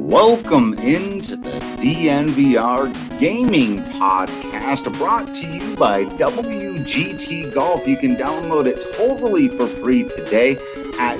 Welcome into the DNVR Gaming Podcast, brought to you by WGT Golf. You can download it totally for free today at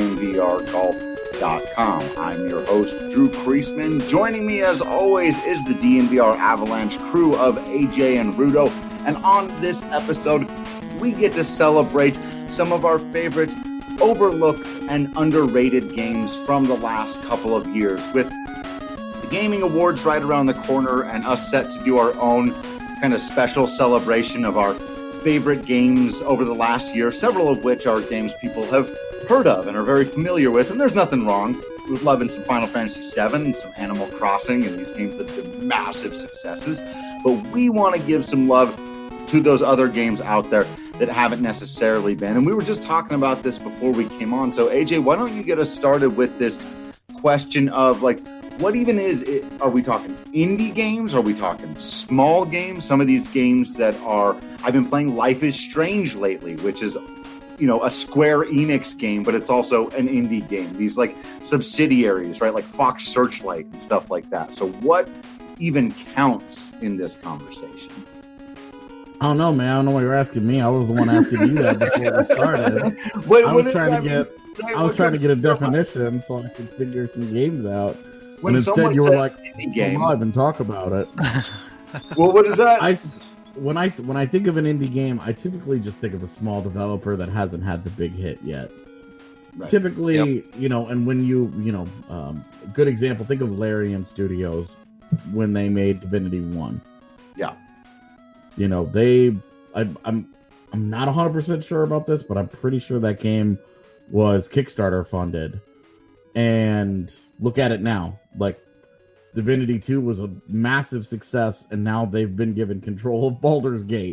dnvrgolf.com. I'm your host, Drew Kreisman. Joining me, as always, is the DNVR Avalanche crew of AJ and Rudo. And on this episode, we get to celebrate some of our favorite overlooked and underrated games from the last couple of years, with the gaming awards right around the corner and us set to do our own kind of special celebration of our favorite games over the last year, several of which are games people have heard of and are very familiar with, and there's nothing wrong with loving some Final Fantasy VII and some Animal Crossing and these games that have been massive successes, but we want to give some love to those other games out there that haven't necessarily been. And we were just talking about this before we came on. So AJ, why don't you get us started with this question of, like, what even is it? Are we talking indie games? Are we talking small games? Some of these games that are, I've been playing Life is Strange lately, which is, you know, a Square Enix game, but it's also an indie game. These like subsidiaries, right? Like Fox Searchlight and stuff like that. So what even counts in this conversation? I don't know, man. I don't know why you're asking me. I was the one asking you that before we started. I was trying to get a definition so I could figure some games out. When and instead, you were like, game, live and talk about it. Well, what is that? When I think of an indie game, I typically just think of a small developer that hasn't had the big hit yet. Right. Typically, you know, and when a good example, think of Larian Studios when they made Divinity 1. Yeah. You know, I'm not 100% sure about this, but I'm pretty sure that game was Kickstarter funded. And look at it now. Like, Divinity 2 was a massive success, and now they've been given control of Baldur's Gate.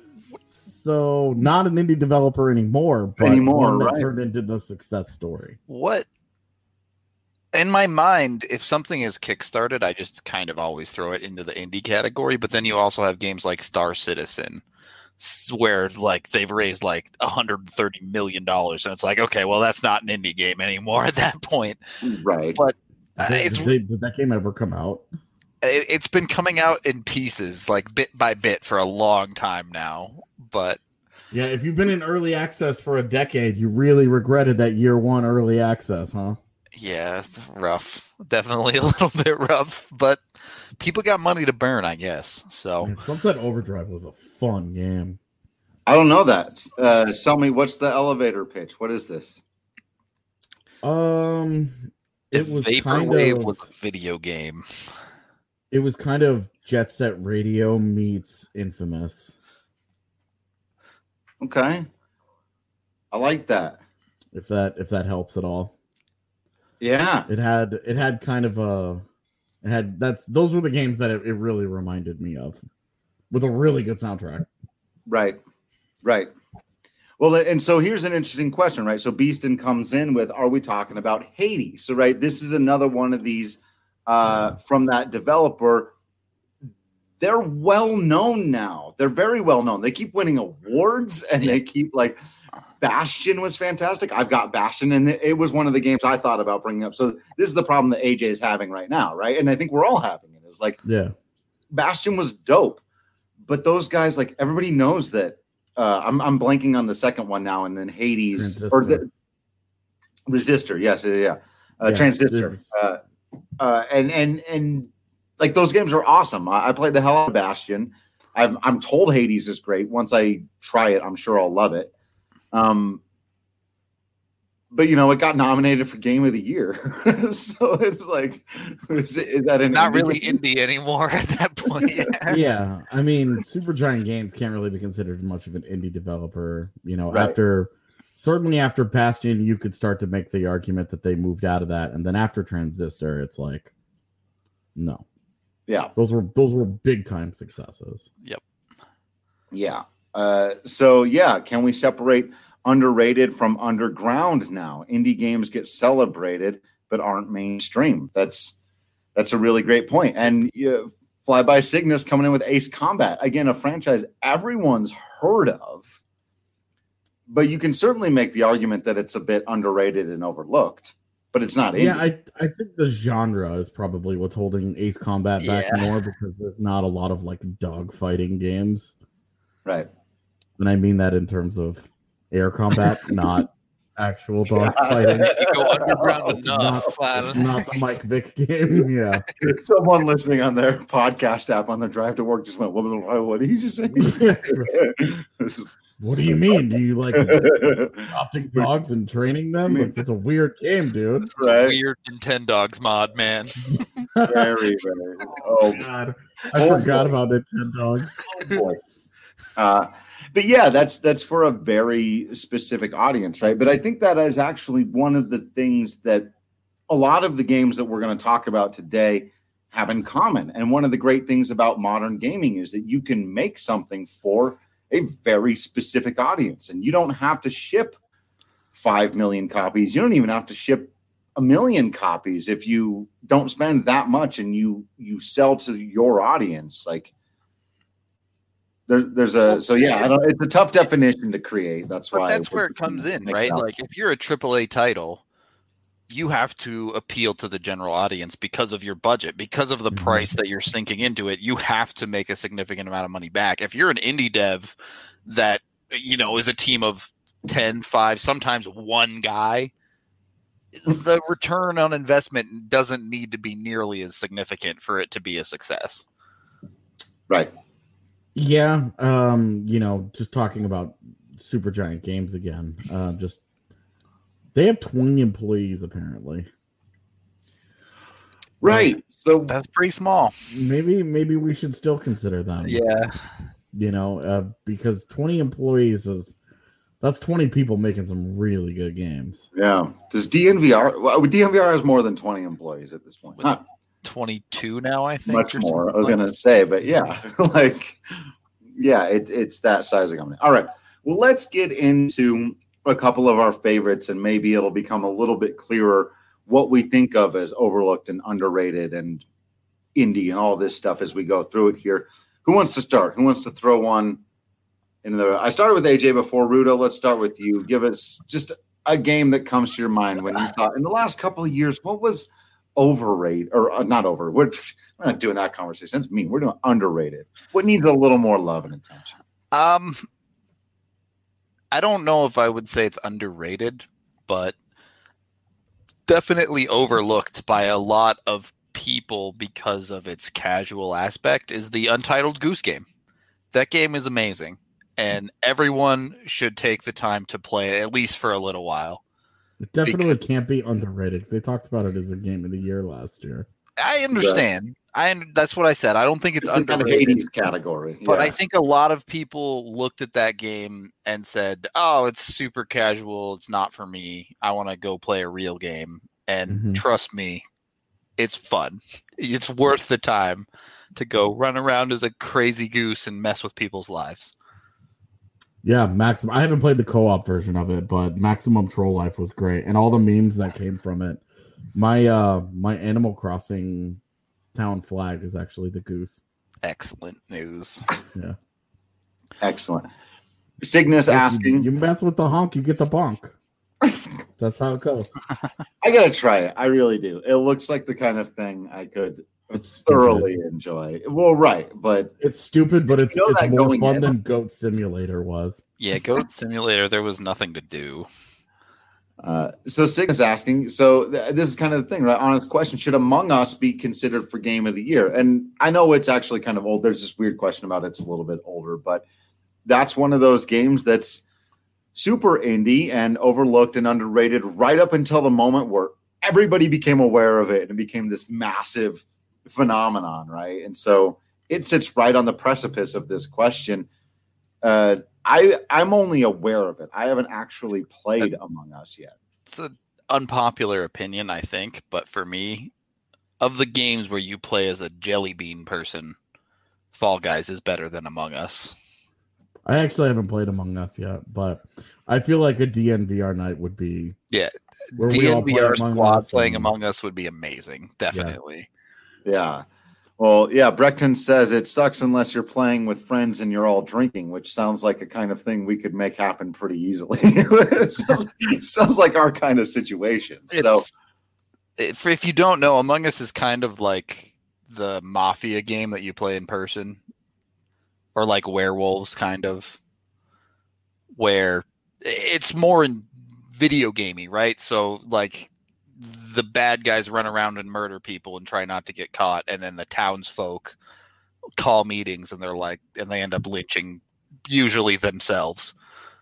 So, not an indie developer anymore, but one that right? turned into the success story. What? In my mind, if something is kickstarted, I just kind of always throw it into the indie category. But then you also have games like Star Citizen, where like they've raised like $130 million, and it's like, okay, well, that's not an indie game anymore at that point, right? But did that game ever come out? It's been coming out in pieces, like bit by bit, for a long time now. But yeah, if you've been in early access for a decade, you really regretted that year one early access, huh? Yeah, it's rough. Definitely a little bit rough, but people got money to burn, I guess. So man, Sunset Overdrive was a fun game. I don't know that. Tell me, what's the elevator pitch? What is this? It was Vaporwave was a video game. It was kind of Jet Set Radio meets Infamous. Okay, I like that. If that helps at all. Yeah, it had kind of those were the games that it really reminded me of, with a really good soundtrack. Right. Well, and so here's an interesting question, right? So Beeston comes in with, are we talking about Hades? So, right, this is another one of these from that developer. They're well known now. They're very well known. They keep winning awards, and they keep like. Bastion was fantastic. I've got Bastion, and it was one of the games I thought about bringing up. So this is the problem that AJ is having right now, right? And I think we're all having it. Is like, yeah, Bastion was dope, but those guys, like, everybody knows that. I'm blanking on the second one now, and then Hades Transistor. Or the Resistor. Yes, Transistor. And like those games are awesome. I played the hell out of Bastion. I'm told Hades is great. Once I try it, I'm sure I'll love it. But you know, it got nominated for Game of the Year, so it's like, is that not really indie anymore at that point? Yeah, I mean, Supergiant Games can't really be considered much of an indie developer. You know, right. Certainly after Bastion, you could start to make the argument that they moved out of that, and then after Transistor, it's like, no, yeah, those were big time successes. Yep. Yeah. So yeah, can we separate underrated from underground now? Indie games get celebrated but aren't mainstream. That's a really great point. And Flyby Cygnus coming in with Ace Combat, again, a franchise everyone's heard of, but you can certainly make the argument that it's a bit underrated and overlooked. but it's not indie. Yeah, I think the genre is probably what's holding Ace Combat back more, because there's not a lot of like dog fighting games. Right. And I mean that in terms of air combat, not actual dogs fighting. You go underground enough. It's not the Mike Vick game. Yeah. Someone listening on their podcast app on their drive to work just went, what did you just say? What do you mean? Do you like adopting dogs and training them? It's a weird game, dude. It's a weird Nintendogs mod, man. Very. Oh God, I forgot about Nintendogs. Oh boy. But yeah, that's for a very specific audience, right? But I think that is actually one of the things that a lot of the games that we're going to talk about today have in common. And one of the great things about modern gaming is that you can make something for a very specific audience, and you don't have to ship 5 million copies. You don't even have to ship 1 million copies if you don't spend that much and you sell to your audience. Like it's a tough definition to create. That's why that's where it comes in, right? Like if you're a AAA title, you have to appeal to the general audience because of your budget, because of the price that you're sinking into it. You have to make a significant amount of money back. If you're an indie dev that, is a team of 10, 5, sometimes one guy, the return on investment doesn't need to be nearly as significant for it to be a success. Right. Yeah. Just talking about Supergiant Games again, they have 20 employees apparently. Right. So that's pretty small. Maybe we should still consider them. Yeah. Because 20 employees that's 20 people making some really good games. Yeah. Does DNVR has more than 20 employees at this point? 22 now, I think. Much more. I was going to say, but yeah, it's that size of company. All right. Well, let's get into a couple of our favorites, and maybe it'll become a little bit clearer what we think of as overlooked and underrated and indie and all this stuff as we go through it here. Who wants to start? Who wants to throw one in the? I started with AJ before. Rudo, let's start with you. Give us just a game that comes to your mind when you thought in the last couple of years, what was overrated or not over? We're not doing that conversation. That's mean. We're doing underrated. What needs a little more love and attention? I don't know if I would say it's underrated, but definitely overlooked by a lot of people because of its casual aspect is the Untitled Goose Game. That game is amazing, and everyone should take the time to play it, at least for a little while. It definitely can't be underrated. They talked about it as a game of the year last year. I understand. That's what I said. I don't think it's underrated. Kind of Hades category. But I think a lot of people looked at that game and said, oh, it's super casual. It's not for me. I want to go play a real game. And trust me, it's fun. It's worth the time to go run around as a crazy goose and mess with people's lives. Yeah, Maximum. I haven't played the co-op version of it, but Maximum Troll Life was great. And all the memes that came from it. My Animal Crossing town flag is actually the goose. Excellent news. Yeah. Excellent. Cygnus asking. You mess with the honk, you get the bonk. That's how it goes. I gotta try it. I really do. It looks like the kind of thing I could thoroughly enjoy. Well, right, but it's stupid, but it's more fun than Goat Simulator was. Yeah, Goat Simulator, there was nothing to do. So Cygnus asking, so this is kind of the thing, right? Honest question. Should Among Us be considered for game of the year? And I know it's actually kind of old. There's this weird question about it's a little bit older, but that's one of those games that's super indie and overlooked and underrated right up until the moment where everybody became aware of it and it became this massive phenomenon, right? And so it sits right on the precipice of this question. I'm only aware of it. I haven't actually played Among Us yet. It's an unpopular opinion, I think, but for me, of the games where you play as a jelly bean person, Fall Guys is better than Among Us. I actually haven't played Among Us yet, but I feel like a DNVR night would be... Yeah, DNVR squad playing Among Us would be amazing, definitely. Yeah. Well, yeah, Breckton says it sucks unless you're playing with friends and you're all drinking, which sounds like a kind of thing we could make happen pretty easily. Sounds like our kind of situation. If you don't know, Among Us is kind of like the Mafia game that you play in person, or like Werewolves, kind of, where it's more in video gamey, right? So like the bad guys run around and murder people and try not to get caught, and then the townsfolk call meetings and they end up lynching usually themselves.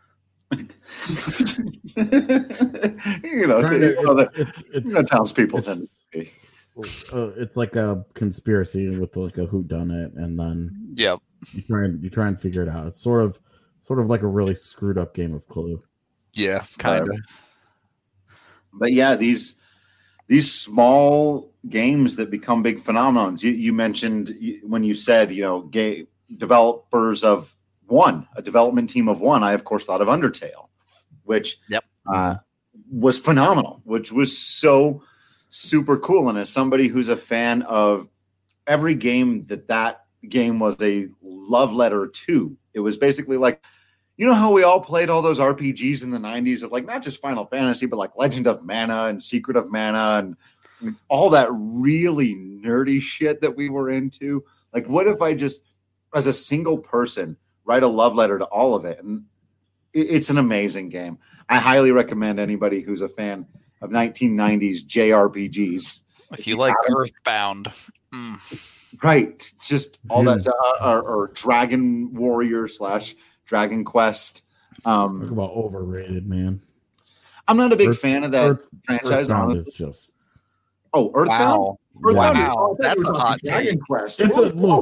Townspeople tend to be. It's like a conspiracy with like a whodunit, and then yep, you try and figure it out. It's sort of like a really screwed up game of Clue. Yeah, kind of. But yeah, these small games that become big phenomenons. You mentioned when you said developers of a development team of one. I of course thought of Undertale, which was phenomenal, which was so super cool. And as somebody who's a fan of every game, that game was a love letter to. It was basically like, how we all played all those RPGs in the 90s of like not just Final Fantasy, but like Legend of Mana and Secret of Mana and all that really nerdy shit that we were into. Like, what if I just, as a single person, write a love letter to all of it? And it's an amazing game. I highly recommend anybody who's a fan of 1990s JRPGs. If you like Earthbound. Right. Just all that or Dragon Warrior / Dragon Quest. Talk about overrated, man. I'm not a big fan of that franchise, honestly. Earthbound? Wow. That's a hot Dragon Quest. Let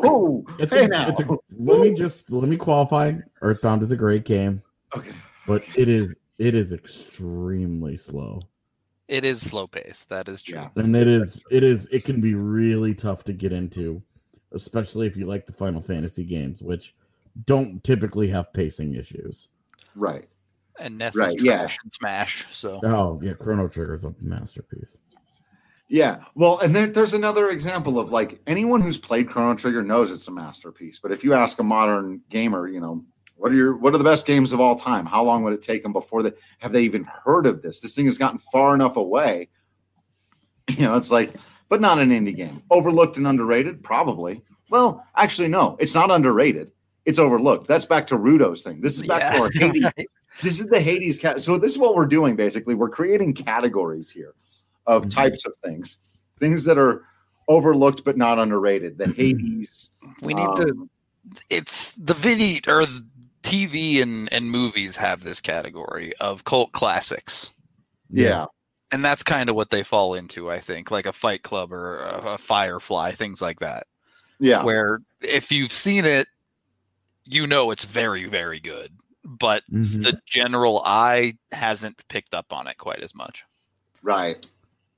me qualify. Earthbound is a great game. Okay. But it is extremely slow. It is slow paced. That is true. Yeah. And it can be really tough to get into, especially if you like the Final Fantasy games, which don't typically have pacing issues. Right. And Ness's trash and Smash. So Chrono Trigger's a masterpiece. Yeah. Well, and there's another example of like anyone who's played Chrono Trigger knows it's a masterpiece. But if you ask a modern gamer, what are the best games of all time? How long would it take them before have they even heard of this? This thing has gotten far enough away. It's like, but not an indie game. Overlooked and underrated? Probably. Well, actually, no, it's not underrated. It's overlooked. That's back to Rudo's thing. This is back to our Hades. Right. This is the Hades cat. So this is what we're doing, basically. We're creating categories here of types of things that are overlooked but not underrated. The Hades. We need it's the video or the TV and movies have this category of cult classics. Yeah. And that's kind of what they fall into, I think, like a Fight Club or a Firefly, things like that. Yeah. Where if you've seen it, it's very, very good. But the general eye hasn't picked up on it quite as much. Right.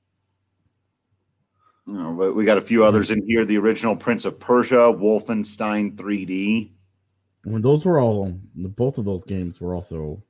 But we got a few others in here. The original Prince of Persia, Wolfenstein 3D. When both of those games were also,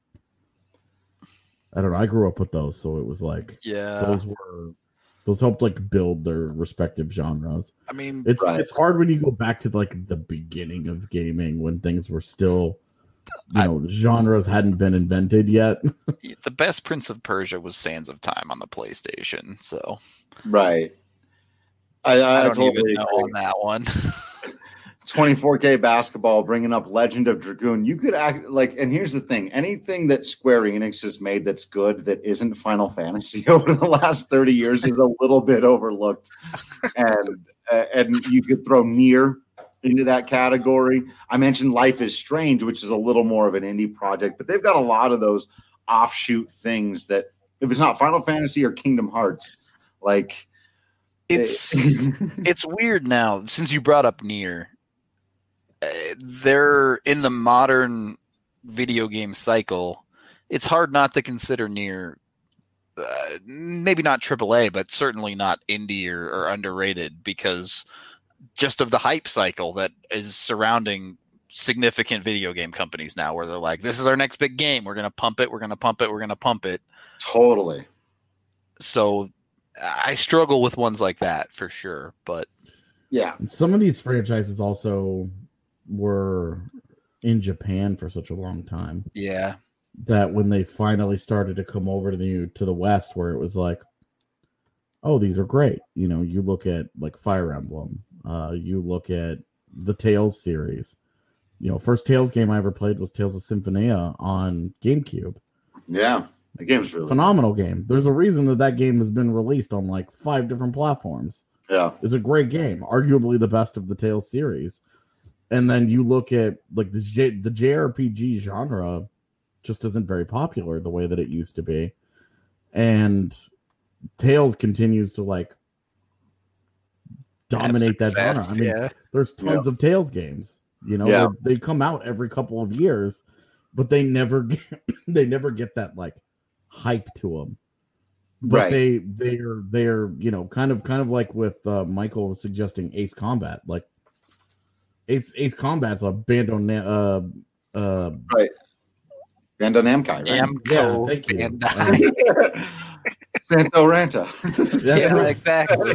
I don't know, I grew up with those, so it was like, those helped like build their respective genres. I mean, it's hard when you go back to like the beginning of gaming when things were still, genres hadn't been invented yet. The best Prince of Persia was Sands of Time on the PlayStation. So, right. I don't totally even know on that one. 24K basketball, bringing up Legend of Dragoon. You could act like, and here's the thing: anything that Square Enix has made that's good that isn't Final Fantasy over the last 30 years is a little bit overlooked, and you could throw Nier into that category. I mentioned Life is Strange, which is a little more of an indie project, but they've got a lot of those offshoot things that if it's not Final Fantasy or Kingdom Hearts, like it's weird now since you brought up Nier. They're in the modern video game cycle. It's hard not to consider Nier, maybe not AAA, but certainly not indie or underrated because just of the hype cycle that is surrounding significant video game companies now, where they're like, "This is our next big game. We're gonna pump it. We're gonna pump it. We're gonna pump it." Totally. So I struggle with ones like that for sure, but yeah, and some of these franchises also were in Japan for such a long time. Yeah. That when they finally started to come over to the West, where it was like, oh, these are great. You know, you look at like Fire Emblem, you look at the Tales series. You know, first Tales game I ever played was Tales of Symphonia on GameCube. Yeah, the game's really phenomenal game. There's a reason that game has been released on like 5 different platforms. Yeah, it's a great game, arguably the best of the Tales series. And then you look at like the JRPG genre just isn't very popular the way that it used to be, and Tales continues to like dominate that genre. I mean, there's tons of Tales games. You know, they come out every couple of years, but they never get that like hype to them. But they're you know, kind of like with Michael suggesting Ace Combat. Like Ace Combat's a Bandai right. Bandai Namco, right? Yeah, thank you. Santo Ranta. Yeah, exactly.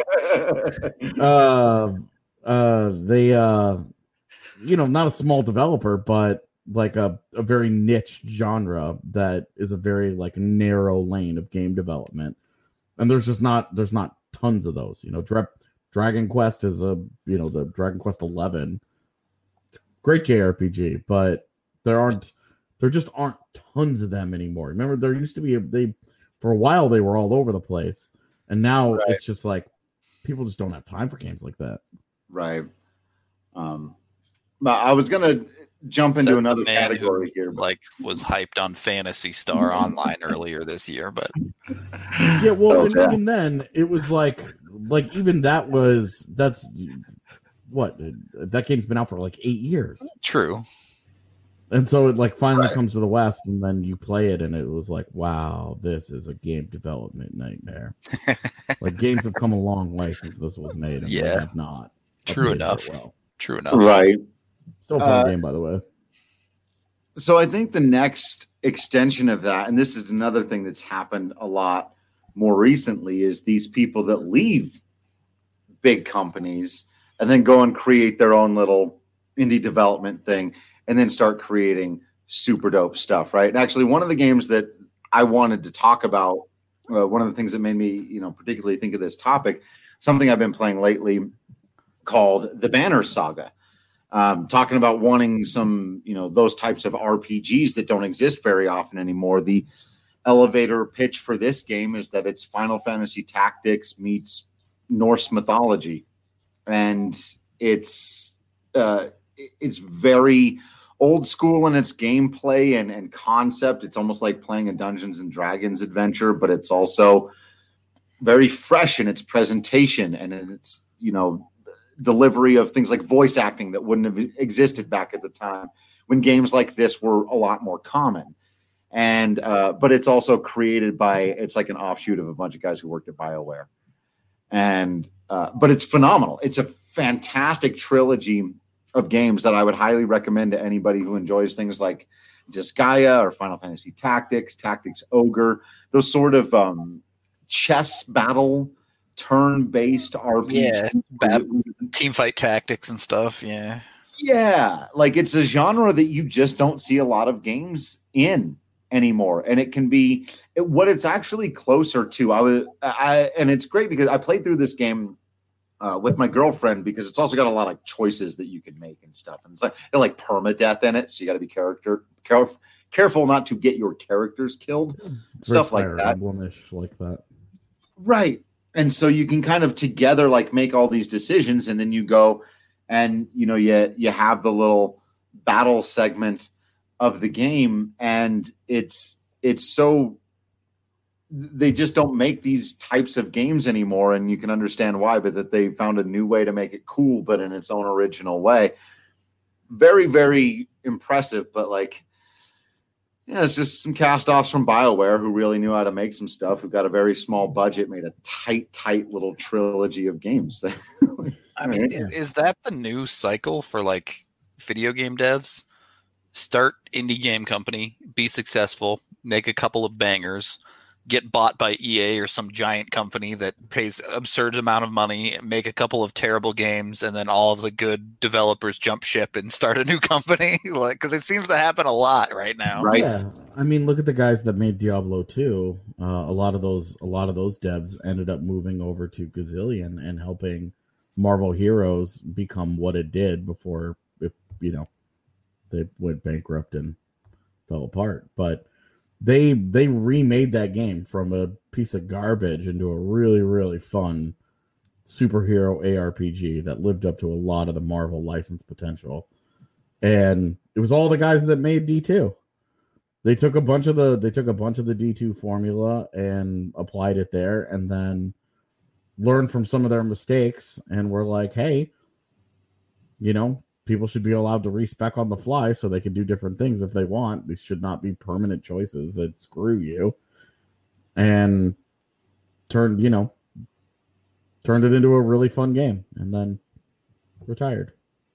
Right. They you know, not a small developer, but like a very niche genre that is a very like narrow lane of game development. And there's not tons of those. You know, Dragon Quest is the Dragon Quest 11. Great JRPG, but there just aren't tons of them anymore. Remember, there used to be for a while they were all over the place, and now it's just like people just don't have time for games like that. Right. I was gonna jump into another category here, but like was hyped on Phantasy Star Online earlier this year, but yeah, well, even then it was like even that's what that game's been out for like 8 years. True. And so it like finally comes to the West, and then you play it, and it was like, wow, this is a game development nightmare. Like games have come a long way since this was made, and they have not. True enough. True enough. Right. Still a fun game, by the way. So I think the next extension of that, and this is another thing that's happened a lot more recently, is these people that leave big companies and then go and create their own little indie development thing and then start creating super dope stuff, right? And actually, one of the games that I wanted to talk about, one of the things that made me, particularly think of this topic, something I've been playing lately called The Banner Saga. Talking about wanting some, those types of RPGs that don't exist very often anymore. The elevator pitch for this game is that it's Final Fantasy Tactics meets Norse mythology, and it's very old school in its gameplay and concept. It's almost like playing a Dungeons and Dragons adventure, but it's also very fresh in its presentation and in its, delivery of things like voice acting that wouldn't have existed back at the time when games like this were a lot more common. And but it's also created by, it's like an offshoot of a bunch of guys who worked at BioWare. And but it's phenomenal. It's a fantastic trilogy of games that I would highly recommend to anybody who enjoys things like Disgaea or Final Fantasy Tactics, Tactics Ogre, those sort of chess battle turn-based RPG. Yeah, team fight tactics and stuff. Yeah, like it's a genre that you just don't see a lot of games in anymore, and it can be what it's actually closer to. And it's great because I played through this game with my girlfriend because it's also got a lot of choices that you can make and stuff, and it's like permadeath in it, so you got to be careful not to get your characters killed, stuff like that. Emblem-ish like that, right? And so you can kind of together like make all these decisions, and then you go and you have the little battle segment of the game, and it's so they just don't make these types of games anymore, and you can understand why, but that they found a new way to make it cool, but in its own original way. Very, very impressive, but it's just some cast-offs from BioWare who really knew how to make some stuff, who got a very small budget, made a tight little trilogy of games. I mean, is that the new cycle for video game devs? Start indie game company, be successful, make a couple of bangers, get bought by EA or some giant company that pays absurd amount of money, make a couple of terrible games, and then all of the good developers jump ship and start a new company. Because it seems to happen a lot right now. Right. Yeah, I mean, look at the guys that made Diablo 2. A lot of those devs ended up moving over to Gazillion and helping Marvel Heroes become what it did before it, they went bankrupt and fell apart. But they remade that game from a piece of garbage into a really, really fun superhero ARPG that lived up to a lot of the Marvel license potential. And it was all the guys that made D2. They took a bunch of the D2 formula and applied it there, and then learned from some of their mistakes, and were like, hey, people should be allowed to respec on the fly so they can do different things if they want. These should not be permanent choices that screw you. And turned it into a really fun game, and then retired.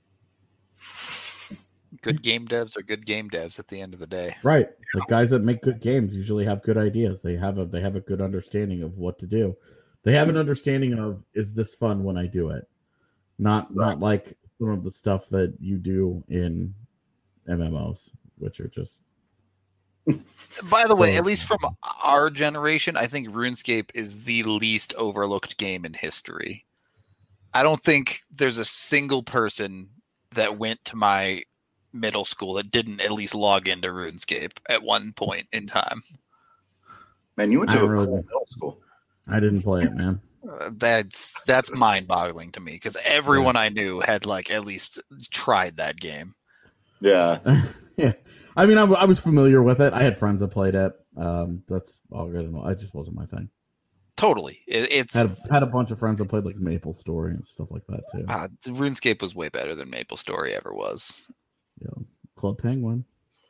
Good game devs are good game devs at the end of the day. Right. The guys that make good games usually have good ideas. They have a good understanding of what to do. They have an understanding of, is this fun when I do it? Not like some of the stuff that you do in MMOs, which are just... By the way, at least from our generation, I think RuneScape is the least overlooked game in history. I don't think there's a single person that went to my middle school that didn't at least log into RuneScape at one point in time. Man, you went to a cool middle school. I didn't play it, man. That's mind-boggling to me, because everyone I knew had at least tried that game. Yeah. Yeah. I mean, I was familiar with it. I had friends that played it. That's all good. It just wasn't my thing. Totally. It's had a bunch of friends that played Maple Story and stuff like that too. RuneScape was way better than Maple Story ever was. Club Penguin.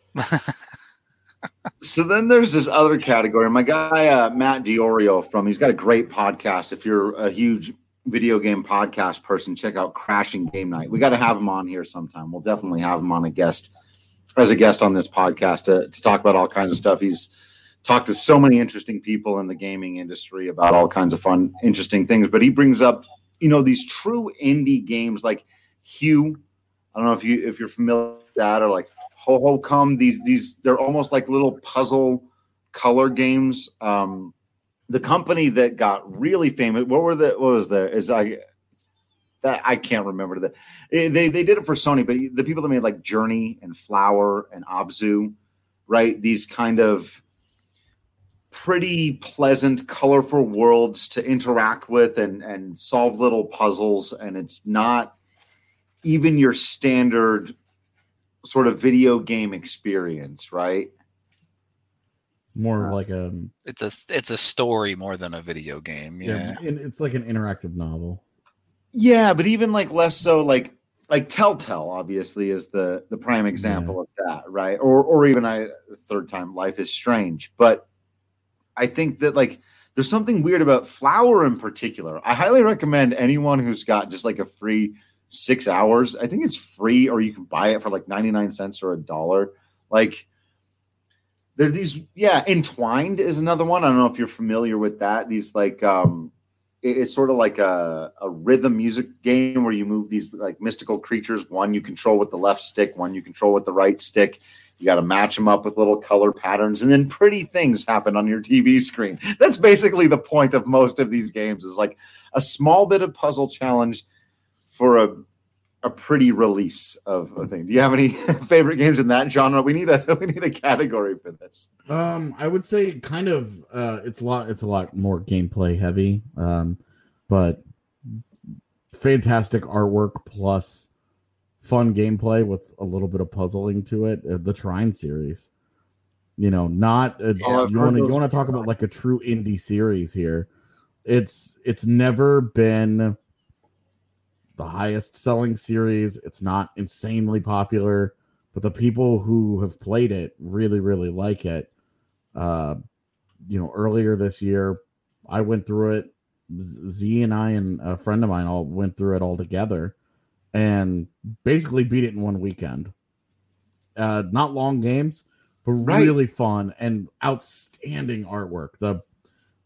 So then there's this other category. My guy Matt Diorio he's got a great podcast. If you're a huge video game podcast person, check out Crashing Game Night. We got to have him on here sometime. We'll definitely have him on as a guest on this podcast to talk about all kinds of stuff. He's talked to so many interesting people in the gaming industry about all kinds of fun, interesting things. But he brings up, these true indie games like Hue. I don't know if you're familiar with that, or like Ho Ho Come. These they're almost like little puzzle color games. The company that got really famous, I can't remember they did it for Sony, but the people that made Journey and Flower and Abzu, right? These kind of pretty pleasant, colorful worlds to interact with and solve little puzzles, and it's not even your standard sort of video game experience, right? More it's a story more than a video game. Yeah. And it's like an interactive novel. Yeah, but even less so like Telltale obviously is the prime example of that, right? Or even third time Life is Strange. But I think that there's something weird about Flower in particular. I highly recommend anyone who's got just a free 6 hours. I think it's free, or you can buy it for 99 cents or $1. There are these, Entwined is another one. I don't know if you're familiar with that. These it's sort of like a rhythm music game where you move these mystical creatures. One you control with the left stick, one you control with the right stick. You got to match them up with little color patterns, and then pretty things happen on your TV screen. That's basically the point of most of these games, is a small bit of puzzle challenge for a pretty release of a thing. Do you have any favorite games in that genre? We need a category for this. I would say kind of it's a lot more gameplay heavy, but fantastic artwork plus fun gameplay with a little bit of puzzling to it. The Trine series, you want to talk about a true indie series here. It's never been the highest selling series. It's not insanely popular, but the people who have played it really, really like it. Earlier this year, I went through it. Z and I and a friend of mine all went through it all together and basically beat it in one weekend. Not long games, but really fun and outstanding artwork.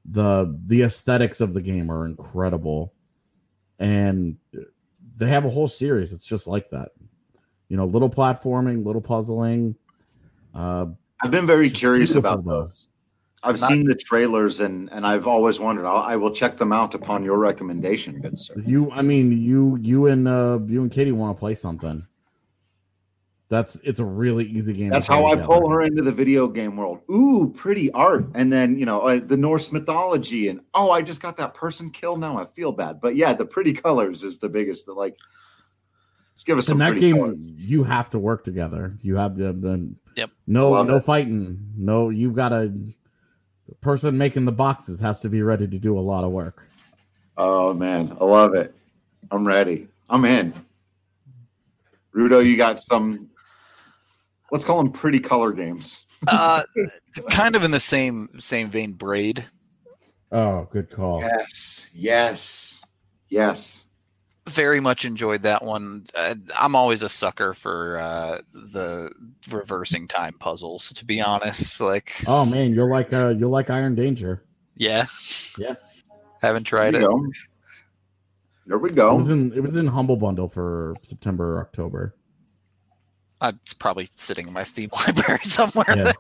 the aesthetics of the game are incredible, and they have a whole series. It's just like that, little platforming, little puzzling. I've been very curious about though. those. I've seen the trailers and I've always wondered. I will check them out upon your recommendation, good sir. You and Katie want to play something. It's a really easy game. That's how I pull her into the video game world. Ooh, pretty art, and then the Norse mythology, and I just got that person killed. Now I feel bad, but yeah, the pretty colors is the biggest. Let's give us some. In that game, colors. You have to work together. You have to. Yep. No fighting. No, you've got to. The person making the boxes has to be ready to do a lot of work. Oh man, I love it. I'm ready. I'm in. Rudo, you got some. Let's call them pretty color games. Kind of in the same vein, Braid. Oh, good call. Yes. Very much enjoyed that one. I'm always a sucker for the reversing time puzzles, to be honest. Oh man, you'll like Iron Danger. Yeah. Haven't tried it. There we go. It was in Humble Bundle for September or October. It's probably sitting in my Steam library somewhere. Yeah.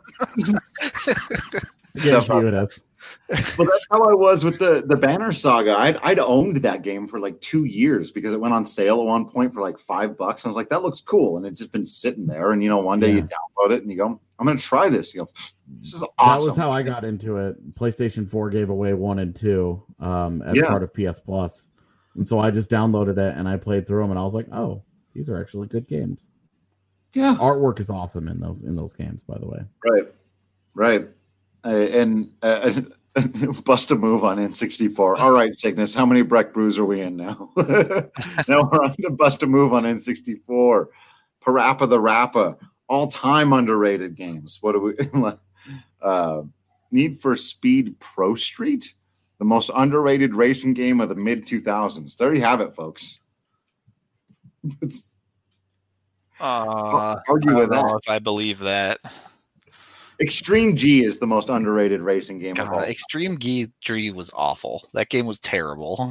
It is. Well, that's how I was with the Banner Saga. I'd owned that game for like 2 years because it went on sale at one point for like $5. I was like, that looks cool, and it's just been sitting there. And one day you download it and you go, I'm going to try this. You go, this is awesome. That was how I got into it. PlayStation 4 gave away 1 and 2 as part of PS Plus, and so I just downloaded it and I played through them, and I was like, oh, these are actually good games. Yeah, artwork is awesome in those games, by the way. Right. And bust a move on N64. All right, Cygnus, how many Breck Brews are we in now? Now we're on to bust a move on N64. Parappa the Rappa, all-time underrated games. What do we Need for Speed Pro Street, the most underrated racing game of the mid-2000s. There you have it, folks. Argue with that. If I believe that. Extreme G is the most underrated racing game of all. Extreme G was awful. That game was terrible.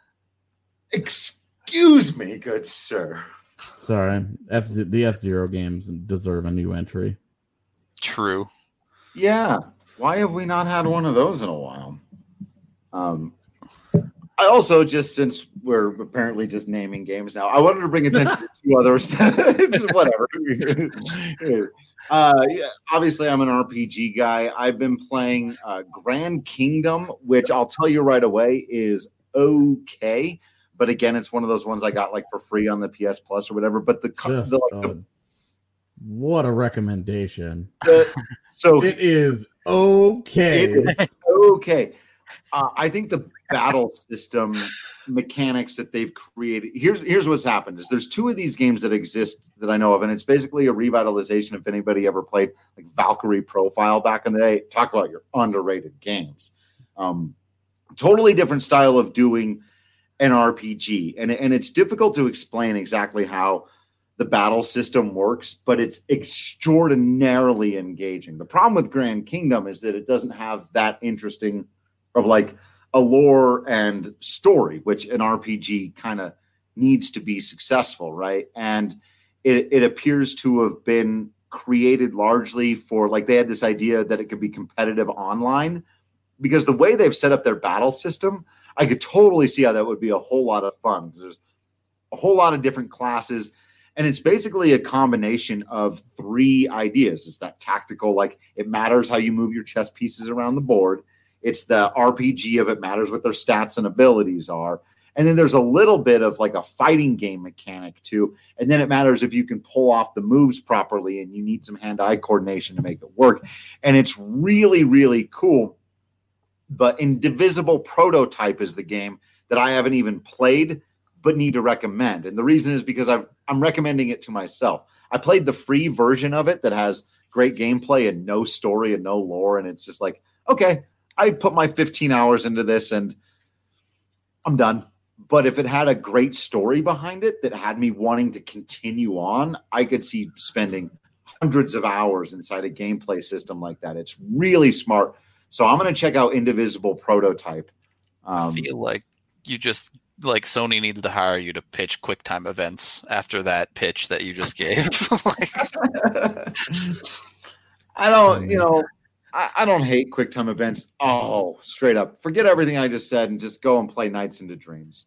Excuse me, good sir. Sorry. The F-Zero games deserve a new entry. True. Yeah. Why have we not had one of those in a while? I also, just since we're apparently just naming games now, I wanted to bring attention to 2 others. Whatever. Obviously, I'm an RPG guy. I've been playing Grand Kingdom, which I'll tell you right away is okay. But again, it's one of those ones I got like for free on the PS Plus or whatever. But what a recommendation! So it is okay. It is okay. I think the battle system mechanics that they've created. Here's what's happened is there's 2 of these games that exist that I know of, and it's basically a revitalization. If anybody ever played like Valkyrie Profile back in the day, talk about your underrated games. Totally different style of doing an RPG, and it's difficult to explain exactly how the battle system works, but it's extraordinarily engaging. The problem with Grand Kingdom is that it doesn't have that interesting of like a lore and story, which an RPG kind of needs to be successful, right? And it appears to have been created largely for, like, they had this idea that it could be competitive online, because the way they've set up their battle system, I could totally see how that would be a whole lot of fun, because there's a whole lot of different classes, and it's basically a combination of 3 ideas. It's that tactical, like, it matters how you move your chess pieces around the board. It's the RPG of it matters what their stats and abilities are. And then there's a little bit of like a fighting game mechanic too. And then it matters if you can pull off the moves properly, and you need some hand-eye coordination to make it work. And it's really, really cool. But Indivisible Prototype is the game that I haven't even played, but need to recommend. And the reason is because I'm recommending it to myself. I played the free version of it that has great gameplay and no story and no lore. And it's just like, okay, I put my 15 hours into this and I'm done. But if it had a great story behind it that had me wanting to continue on, I could see spending hundreds of hours inside a gameplay system like that. It's really smart. So I'm going to check out Indivisible Prototype. I feel like you just like Sony needs to hire you to pitch QuickTime events after that pitch that you just gave. I don't, I don't hate QuickTime events. Oh, straight up. Forget everything I just said and just go and play Nights into Dreams.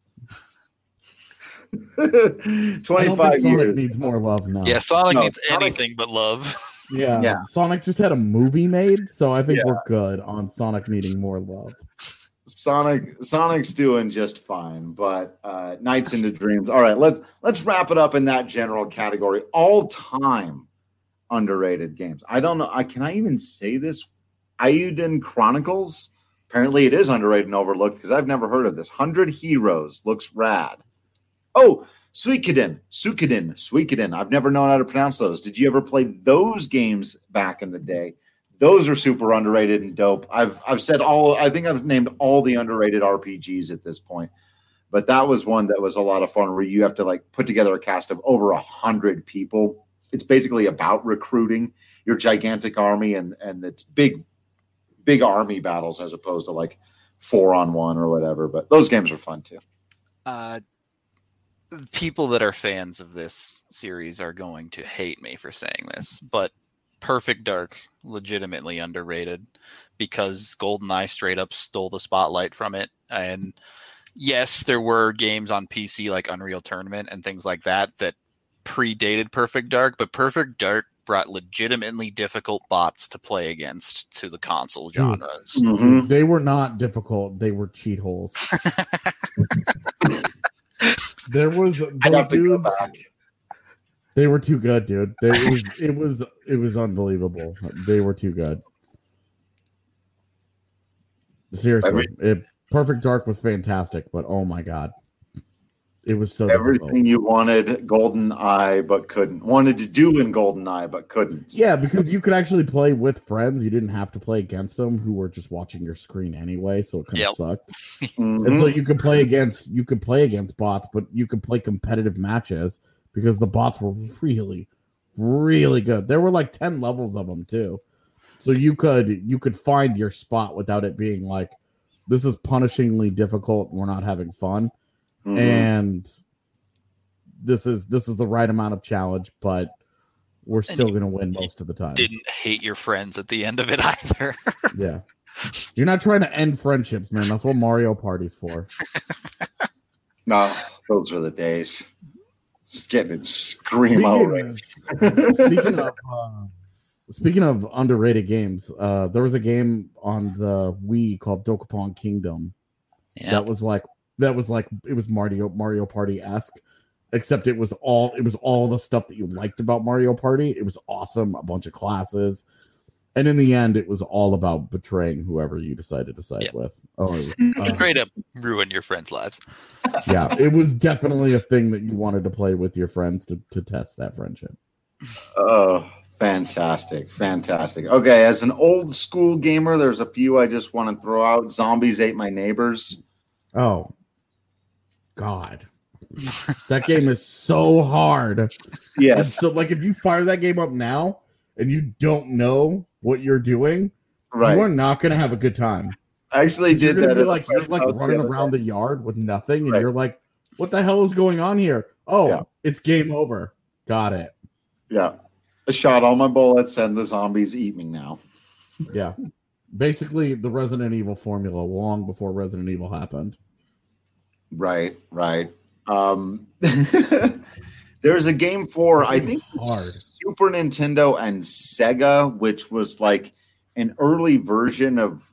25 years. Sonic needs more love now. Yeah, Sonic needs anything but love. Yeah. Sonic just had a movie made, so I think we're good on Sonic needing more love. Sonic's doing just fine, but Nights into Dreams. All right, let's wrap it up in that general category. All-time underrated games. I don't know. Can I even say this? Eiyuden Chronicles. Apparently, it is underrated and overlooked because I've never heard of this. 100 Heroes looks rad. Oh, Suikoden. I've never known how to pronounce those. Did you ever play those games back in the day? Those are super underrated and dope. I've said all. I think I've named all the underrated RPGs at this point, but that was one that was a lot of fun where you have to like put together a cast of over 100 people. It's basically about recruiting your gigantic army and it's big army battles as opposed to like 4-on-1 or whatever. But those games are fun too. People that are fans of this series are going to hate me for saying this, but Perfect Dark, legitimately underrated because GoldenEye straight up stole the spotlight from it. And yes, there were games on PC like Unreal Tournament and things like that predated Perfect Dark, but Perfect Dark brought legitimately difficult bots to play against to the console genres. Mm-hmm. They were not difficult. They were cheat holes. There was those dudes. They were too good, dude. It was unbelievable. They were too good. Seriously, Perfect Dark was fantastic, but oh my god, it was so everything difficult. You wanted GoldenEye but couldn't. Wanted to do in GoldenEye but couldn't. Yeah, because you could actually play with friends. You didn't have to play against them who were just watching your screen anyway, so it kind of sucked. Mm-hmm. And so you could play against bots, but you could play competitive matches because the bots were really, really good. There were like 10 levels of them too. So you could find your spot without it being like, this is punishingly difficult and we're not having fun. Mm-hmm. And this is the right amount of challenge, but we're still going to win most of the time. Didn't hate your friends at the end of it either. Yeah. You're not trying to end friendships, man. That's what Mario Party's for. No, those were the days. Just getting it scream out. Speaking of underrated games, there was a game on the Wii called Dokapon Kingdom. Yeah. That was Mario Party-esque, except it was all the stuff that you liked about Mario Party. It was awesome, a bunch of classes, and in the end, it was all about betraying whoever you decided to side with. Straight up ruin your friends' lives. Yeah, it was definitely a thing that you wanted to play with your friends to test that friendship. Oh, fantastic. Okay, as an old school gamer, there's a few I just want to throw out. Zombies Ate My Neighbors. Oh, God. That game is so hard. Yes. So, like, if you fire that game up now and you don't know what you're doing, right, you are not going to have a good time. I actually did that. You're like running around the yard with nothing, and you're like, what the hell is going on here? Oh, It's game over. Got it. Yeah. I shot all my bullets, and the zombies eat me now. Yeah. Basically, the Resident Evil formula long before Resident Evil happened. Right. There's a game for, I think, Super Nintendo and Sega, which was like an early version of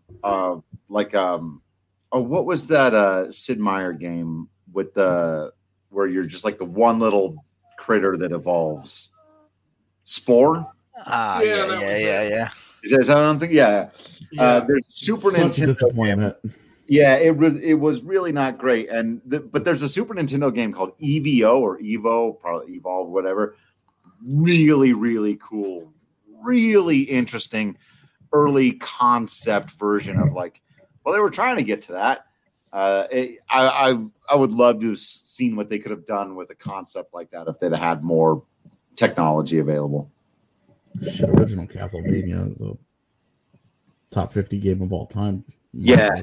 what was that Sid Meier game with where you're just like the one little critter that evolves? Spore? Yeah. Is that something? Yeah. There's Super Nintendo game. Yeah, it was really not great. But there's a Super Nintendo game called EVO or Evo, probably Evolve, whatever. Really, really cool, really interesting early concept version of they were trying to get to that. I would love to have seen what they could have done with a concept like that if they'd had more technology available. Original Castlevania is top 50 game of all time. Yeah.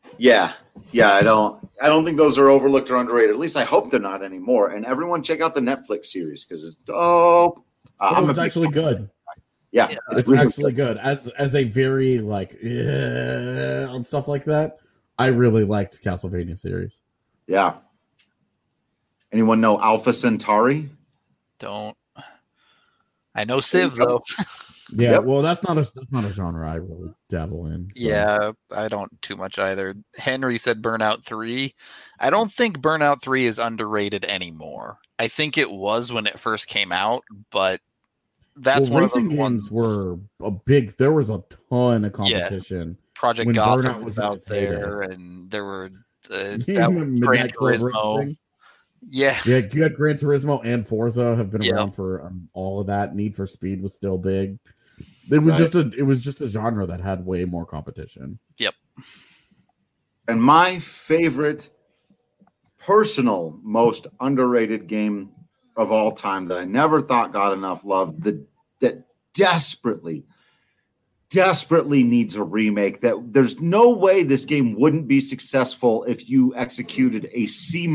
I don't think those are overlooked or underrated. At least I hope they're not anymore. And everyone check out the Netflix series because it's dope. It's actually good. Yeah, it's really actually good. As a very on stuff like that, I really liked Castlevania series. Yeah. Anyone know Alpha Centauri? Don't. I know Civ though. Yeah, yep. Well, that's not a genre I really dabble in. So. Yeah, I don't too much either. Henry said Burnout 3. I don't think Burnout 3 is underrated anymore. I think it was when it first came out, but that's one racing of the games ones were a big. There was a ton of competition. Yeah. Project Gotham was out there, and there were that Gran Turismo. Yeah, you had Gran Turismo and Forza have been around for all of that. Need for Speed was still big. It was just a genre that had way more competition. Yep. And my favorite personal most underrated game of all time that I never thought got enough love, that desperately needs a remake, that there's no way this game wouldn't be successful if you executed a C-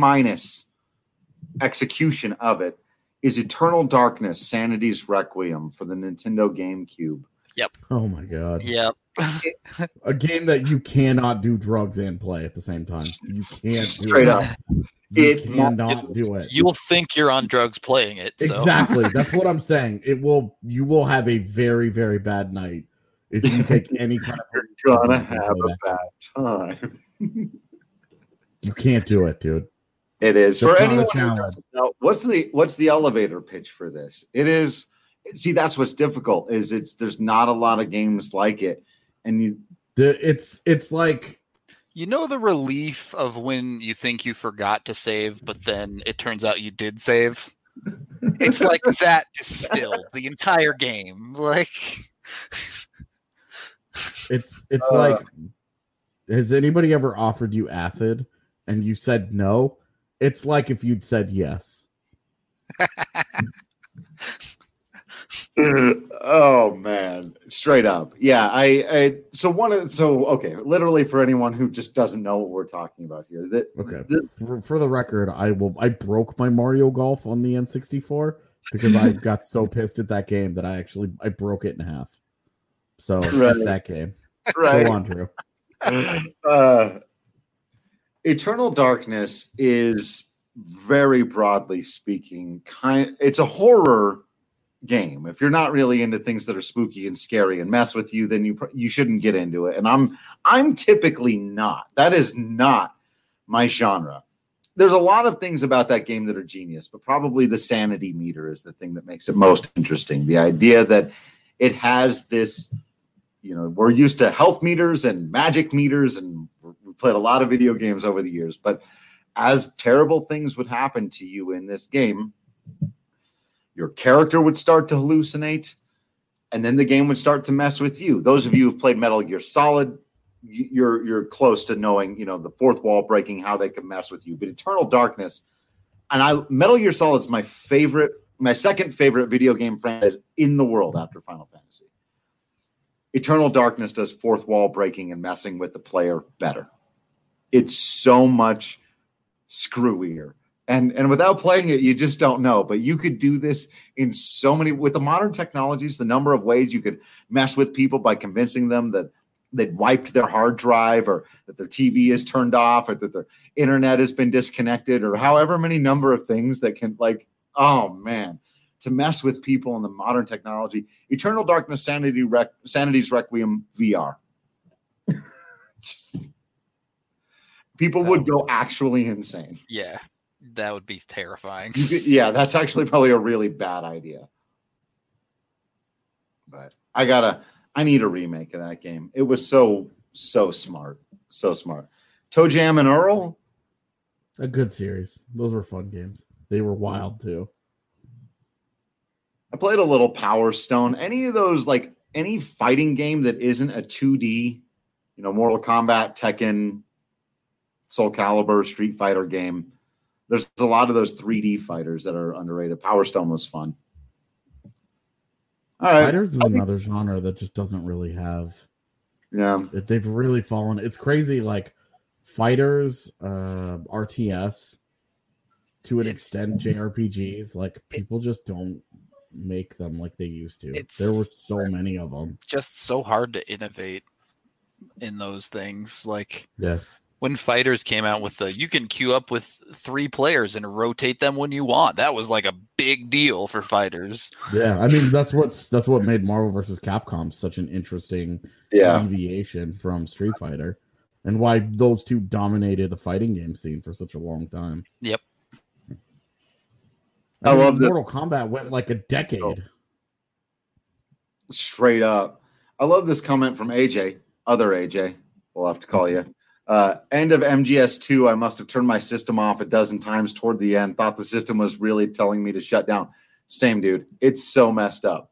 execution of it, is Eternal Darkness, Sanity's Requiem for the Nintendo GameCube. Yep. Oh my god. Yep. A game that you cannot do drugs and play at the same time. You can't straight do up. You cannot do it. You'll think you're on drugs playing it. So. Exactly. That's what I'm saying. You will have a very, very bad night if you take any kind of. You're gonna have a bad time. You can't do it, dude. It is. For anyone who doesn't know, what's the elevator pitch for this? It is. See, that's what's difficult. There's not a lot of games like it, and it's like, you know, the relief of when you think you forgot to save, but then it turns out you did save. It's like that distilled the entire game. Like it's like, has anybody ever offered you acid and you said no? It's like if you'd said yes. Oh man, straight up. Yeah, okay, literally for anyone who just doesn't know what we're talking about here. For the record, I broke my Mario Golf on the N64 because I got so pissed at that game that I broke it in half. So that game. Right. Go on, Drew. Eternal Darkness is, very broadly speaking, it's a horror game. If you're not really into things that are spooky and scary and mess with you, then you shouldn't get into it. And I'm typically not. That is not my genre. There's a lot of things about that game that are genius, but probably the sanity meter is the thing that makes it most interesting. The idea that it has this, we're used to health meters and magic meters, and we've played a lot of video games over the years, but as terrible things would happen to you in this game, your character would start to hallucinate, and then the game would start to mess with you. Those of you who've played Metal Gear Solid, you're close to knowing, the fourth wall breaking, how they can mess with you. But Eternal Darkness, Metal Gear Solid's my second favorite video game franchise in the world after Final Fantasy. Eternal Darkness does fourth wall breaking and messing with the player better. It's so much screwier. And without playing it, you just don't know. But you could do this in so many, with the modern technologies, the number of ways you could mess with people by convincing them that they'd wiped their hard drive, or that their TV is turned off, or that their internet has been disconnected, or however many number of things that can, oh man, to mess with people in the modern technology. Eternal Darkness, Sanity's Requiem VR. People would go actually insane. Yeah, that would be terrifying. Yeah, that's actually probably a really bad idea. But I need a remake of that game. It was so smart. So smart. Toe Jam and Earl? A good series. Those were fun games. They were wild too. I played a little Power Stone. Any of those, any fighting game that isn't a 2D, Mortal Kombat, Tekken, Soul Calibur, Street Fighter game. There's a lot of those 3D fighters that are underrated. Power Stone was fun. All right. Fighters is another genre that just doesn't really have Yeah. They've really fallen. It's crazy. Like fighters, RTS, to an extent, JRPGs. Like people just don't make them like they used to. There were so many of them. Just so hard to innovate in those things. Like Yeah. when fighters came out with you can queue up with 3 players and rotate them when you want. That was like a big deal for fighters. Yeah, I mean that's what made Marvel vs. Capcom such an interesting deviation from Street Fighter, and why those two dominated the fighting game scene for such a long time. Yep. I love this. Mortal Kombat went like a decade. Straight up. I love this comment from AJ. Other AJ, we'll have to call you. End of MGS2, I must have turned my system off a dozen times toward the end. Thought the system was really telling me to shut down. Same, dude. It's so messed up.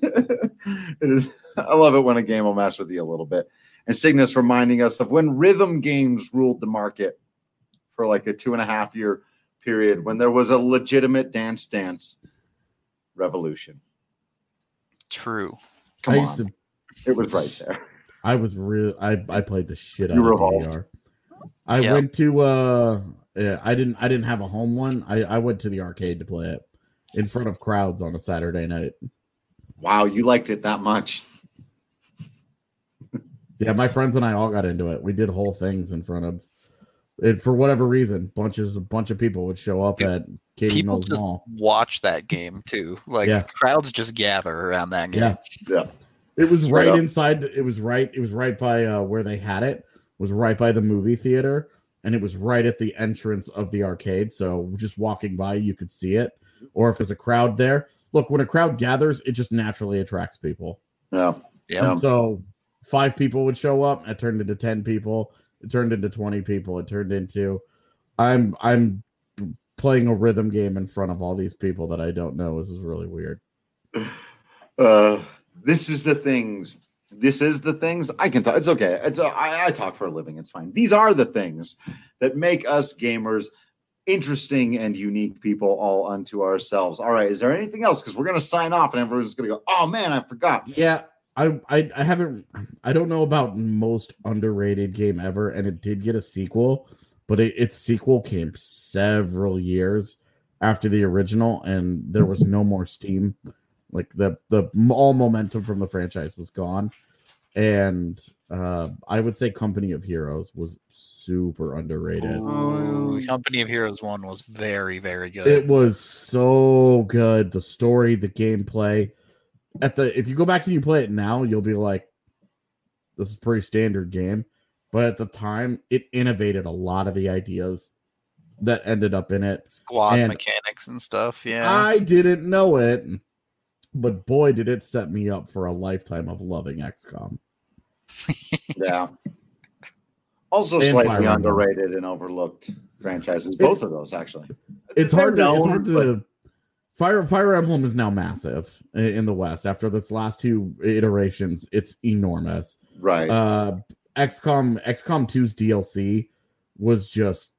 I love it when a game will mess with you a little bit. And Cygnus reminding us of when rhythm games ruled the market for like a 2.5 year period, when there was a legitimate Dance Dance revolution. True. It was right there. I was real. I played the shit out You of revolved. DDR. I went to I didn't have a home one. I went to the arcade to play it in front of crowds on a Saturday night. Wow, you liked it that much. Yeah, my friends and I all got into it. We did whole things in front of it for whatever reason. A bunch of people would show up at Katie Mills Mall. Watch that game too. Like crowds just gather around that game. Yeah. It was right inside. It was right by where they had it. Was right by the movie theater, and it was right at the entrance of the arcade. So just walking by, you could see it. Or if there's a crowd there, look, when a crowd gathers, it just naturally attracts people. Yeah. So 5 people would show up. It turned into 10 people. It turned into 20 people. It turned into I'm playing a rhythm game in front of all these people that I don't know. This is really weird. This is the things. I can talk. It's okay. I talk for a living. It's fine. These are the things that make us gamers interesting and unique people all unto ourselves. All right. Is there anything else? Because we're going to sign off and everyone's going to go, oh man, I forgot. Yeah. I don't know about most underrated game ever. And it did get a sequel, but its sequel came several years after the original, and there was no more steam. Like the all momentum from the franchise was gone. And I would say Company of Heroes was super underrated. Company of Heroes 1 was very, very good. It was so good. The story, the gameplay. If you go back and you play it now, you'll be like, this is a pretty standard game. But at the time, it innovated a lot of the ideas that ended up in it. Squad mechanics and stuff, yeah. I didn't know it, but boy, did it set me up for a lifetime of loving XCOM. Yeah. Also And slightly Fire Emblem. Underrated and overlooked franchises. Both of those, actually. It's hard to Fire Emblem is now massive in the West. After its last 2 iterations, it's enormous. Right. XCOM 2's DLC was just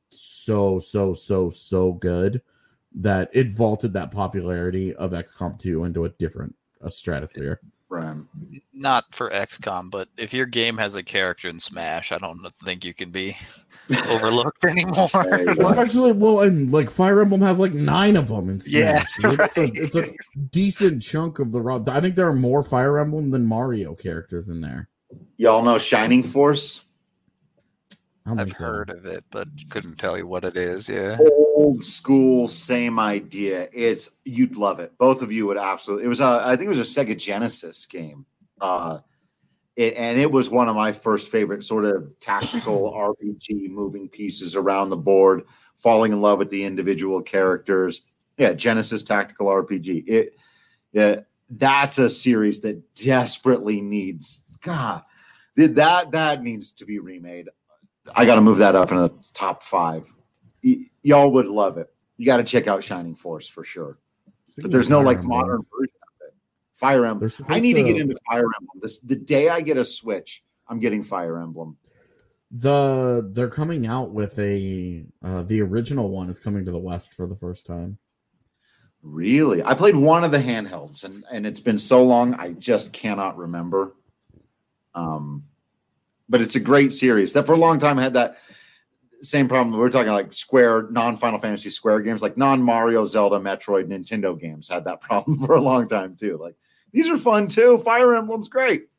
so good that it vaulted that popularity of XCOM 2 into a stratosphere. Right. Not for XCOM, but if your game has a character in Smash, I don't think you can be overlooked anymore. Especially, and like Fire Emblem has like 9 of them in Smash. Yeah, right. It's a decent chunk of the raw. I think there are more Fire Emblem than Mario characters in there. Y'all know Shining Force? I've heard of it, but couldn't tell you what it is. Yeah. Old school, same idea. You'd love it. Both of you would absolutely. It was I think it was a Sega Genesis game. And it was one of my first favorite sort of tactical RPG moving pieces around the board, falling in love with the individual characters. Yeah, Genesis tactical RPG. That's a series that desperately needs that needs to be remade. I got to move that up in the top 5. Y'all would love it. You got to check out Shining Force for sure. But there's no like modern version of it. Fire Emblem. I need to get into Fire Emblem. The day I get a Switch, I'm getting Fire Emblem. They're coming out with the original one is coming to the West for the first time. Really? I played one of the handhelds, and it's been so long I just cannot remember. but it's a great series that for a long time had that same problem. We're talking like Square, non-Final Fantasy Square games, like non-Mario, Zelda, Metroid, Nintendo games had that problem for a long time too. Like, these are fun too. Fire Emblem's great.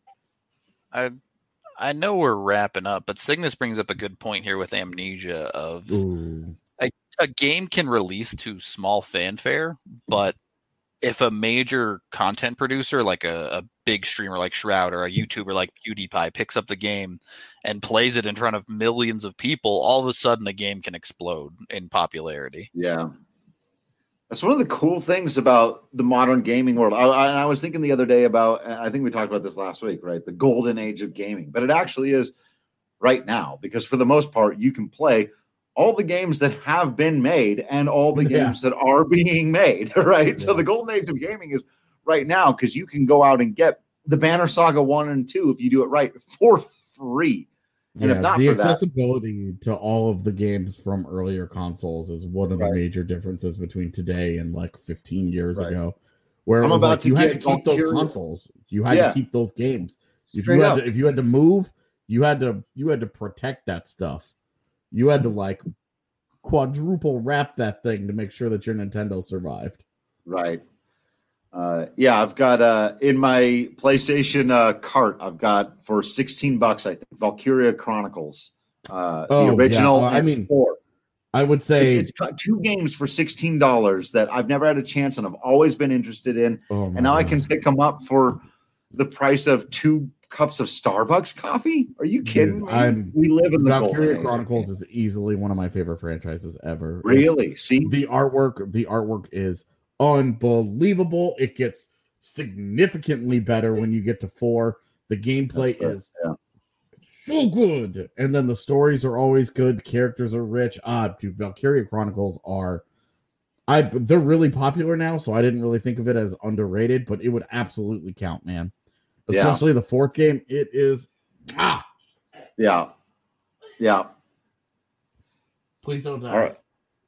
I know we're wrapping up, but Cygnus brings up a good point here with Amnesia of a game can release to small fanfare, but if a major content producer like a big streamer like Shroud or a YouTuber like PewDiePie picks up the game and plays it in front of millions of people, all of a sudden the game can explode in popularity. Yeah. That's one of the cool things about the modern gaming world. I was thinking the other day about, I think we talked about this last week, right? The golden age of gaming, but it actually is right now, because for the most part, you can play all the games that have been made and all the games that are being made, right? Yeah. So the golden age of gaming is right now, because you can go out and get the Banner Saga 1 and 2 if you do it right for free. And if not the for accessibility to all of the games from earlier consoles is one of the major differences between today and like 15 years ago, where it was like you had to keep those consoles, you had to keep those games. If you had to move, you had to protect that stuff. You had to like quadruple wrap that thing to make sure that your Nintendo survived. Right. I've got in my PlayStation cart, I've got for $16, I think, Valkyria Chronicles, the original. I mean, 4. I would say it's got 2 games for $16 that I've never had a chance and I've always been interested in, and now I can pick them up for the price of 2 cups of Starbucks coffee. Are you kidding me? We live in the Valkyria Chronicles is easily one of my favorite franchises ever. Really? See, the artwork is unbelievable. It gets significantly better when you get to 4. The gameplay is so good, and then the stories are always good. The characters are rich. Dude, Valkyria Chronicles they're really popular now, so I didn't really think of it as underrated, but it would absolutely count, man. Especially the 4th game. It is yeah. Please don't die. All right.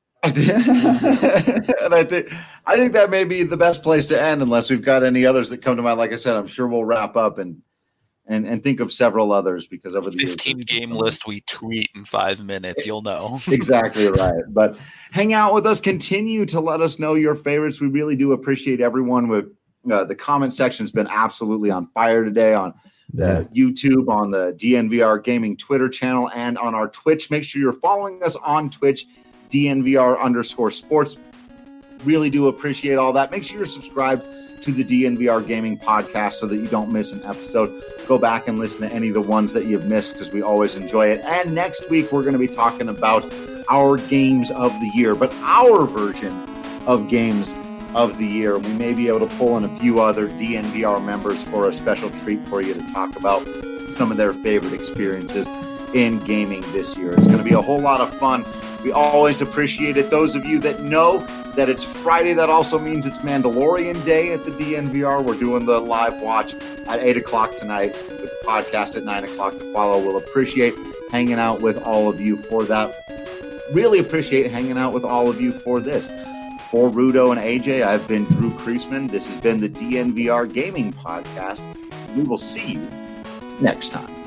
And I think that may be the best place to end, unless we've got any others that come to mind. Like I said, I'm sure we'll wrap up and think of several others, because over the 15 game list we tweet in 5 minutes, you'll know. Exactly right. But hang out with us, continue to let us know your favorites. We really do appreciate everyone. With the comment section's been absolutely on fire today on the YouTube, on the DNVR Gaming Twitter channel, and on our Twitch. Make sure you're following us on Twitch, DNVR_sports. Really do appreciate all that. Make sure you're subscribed to the DNVR Gaming Podcast so that you don't miss an episode. Go back and listen to any of the ones that you've missed, because we always enjoy it. And next week, we're going to be talking about our games of the year, but our version of games of the year. We may be able to pull in a few other DNVR members for a special treat for you to talk about some of their favorite experiences in gaming this year. It's going to be a whole lot of fun. We always appreciate it. Those of you that know that it's Friday, that also means it's Mandalorian Day at the DNVR. We're doing the live watch at 8 o'clock tonight, with the podcast at 9 o'clock to follow. We'll appreciate hanging out with all of you for that. Really appreciate hanging out with all of you for this. For Rudo and AJ, I've been Drew Kreisman. This has been the DNVR Gaming Podcast. We will see you next time.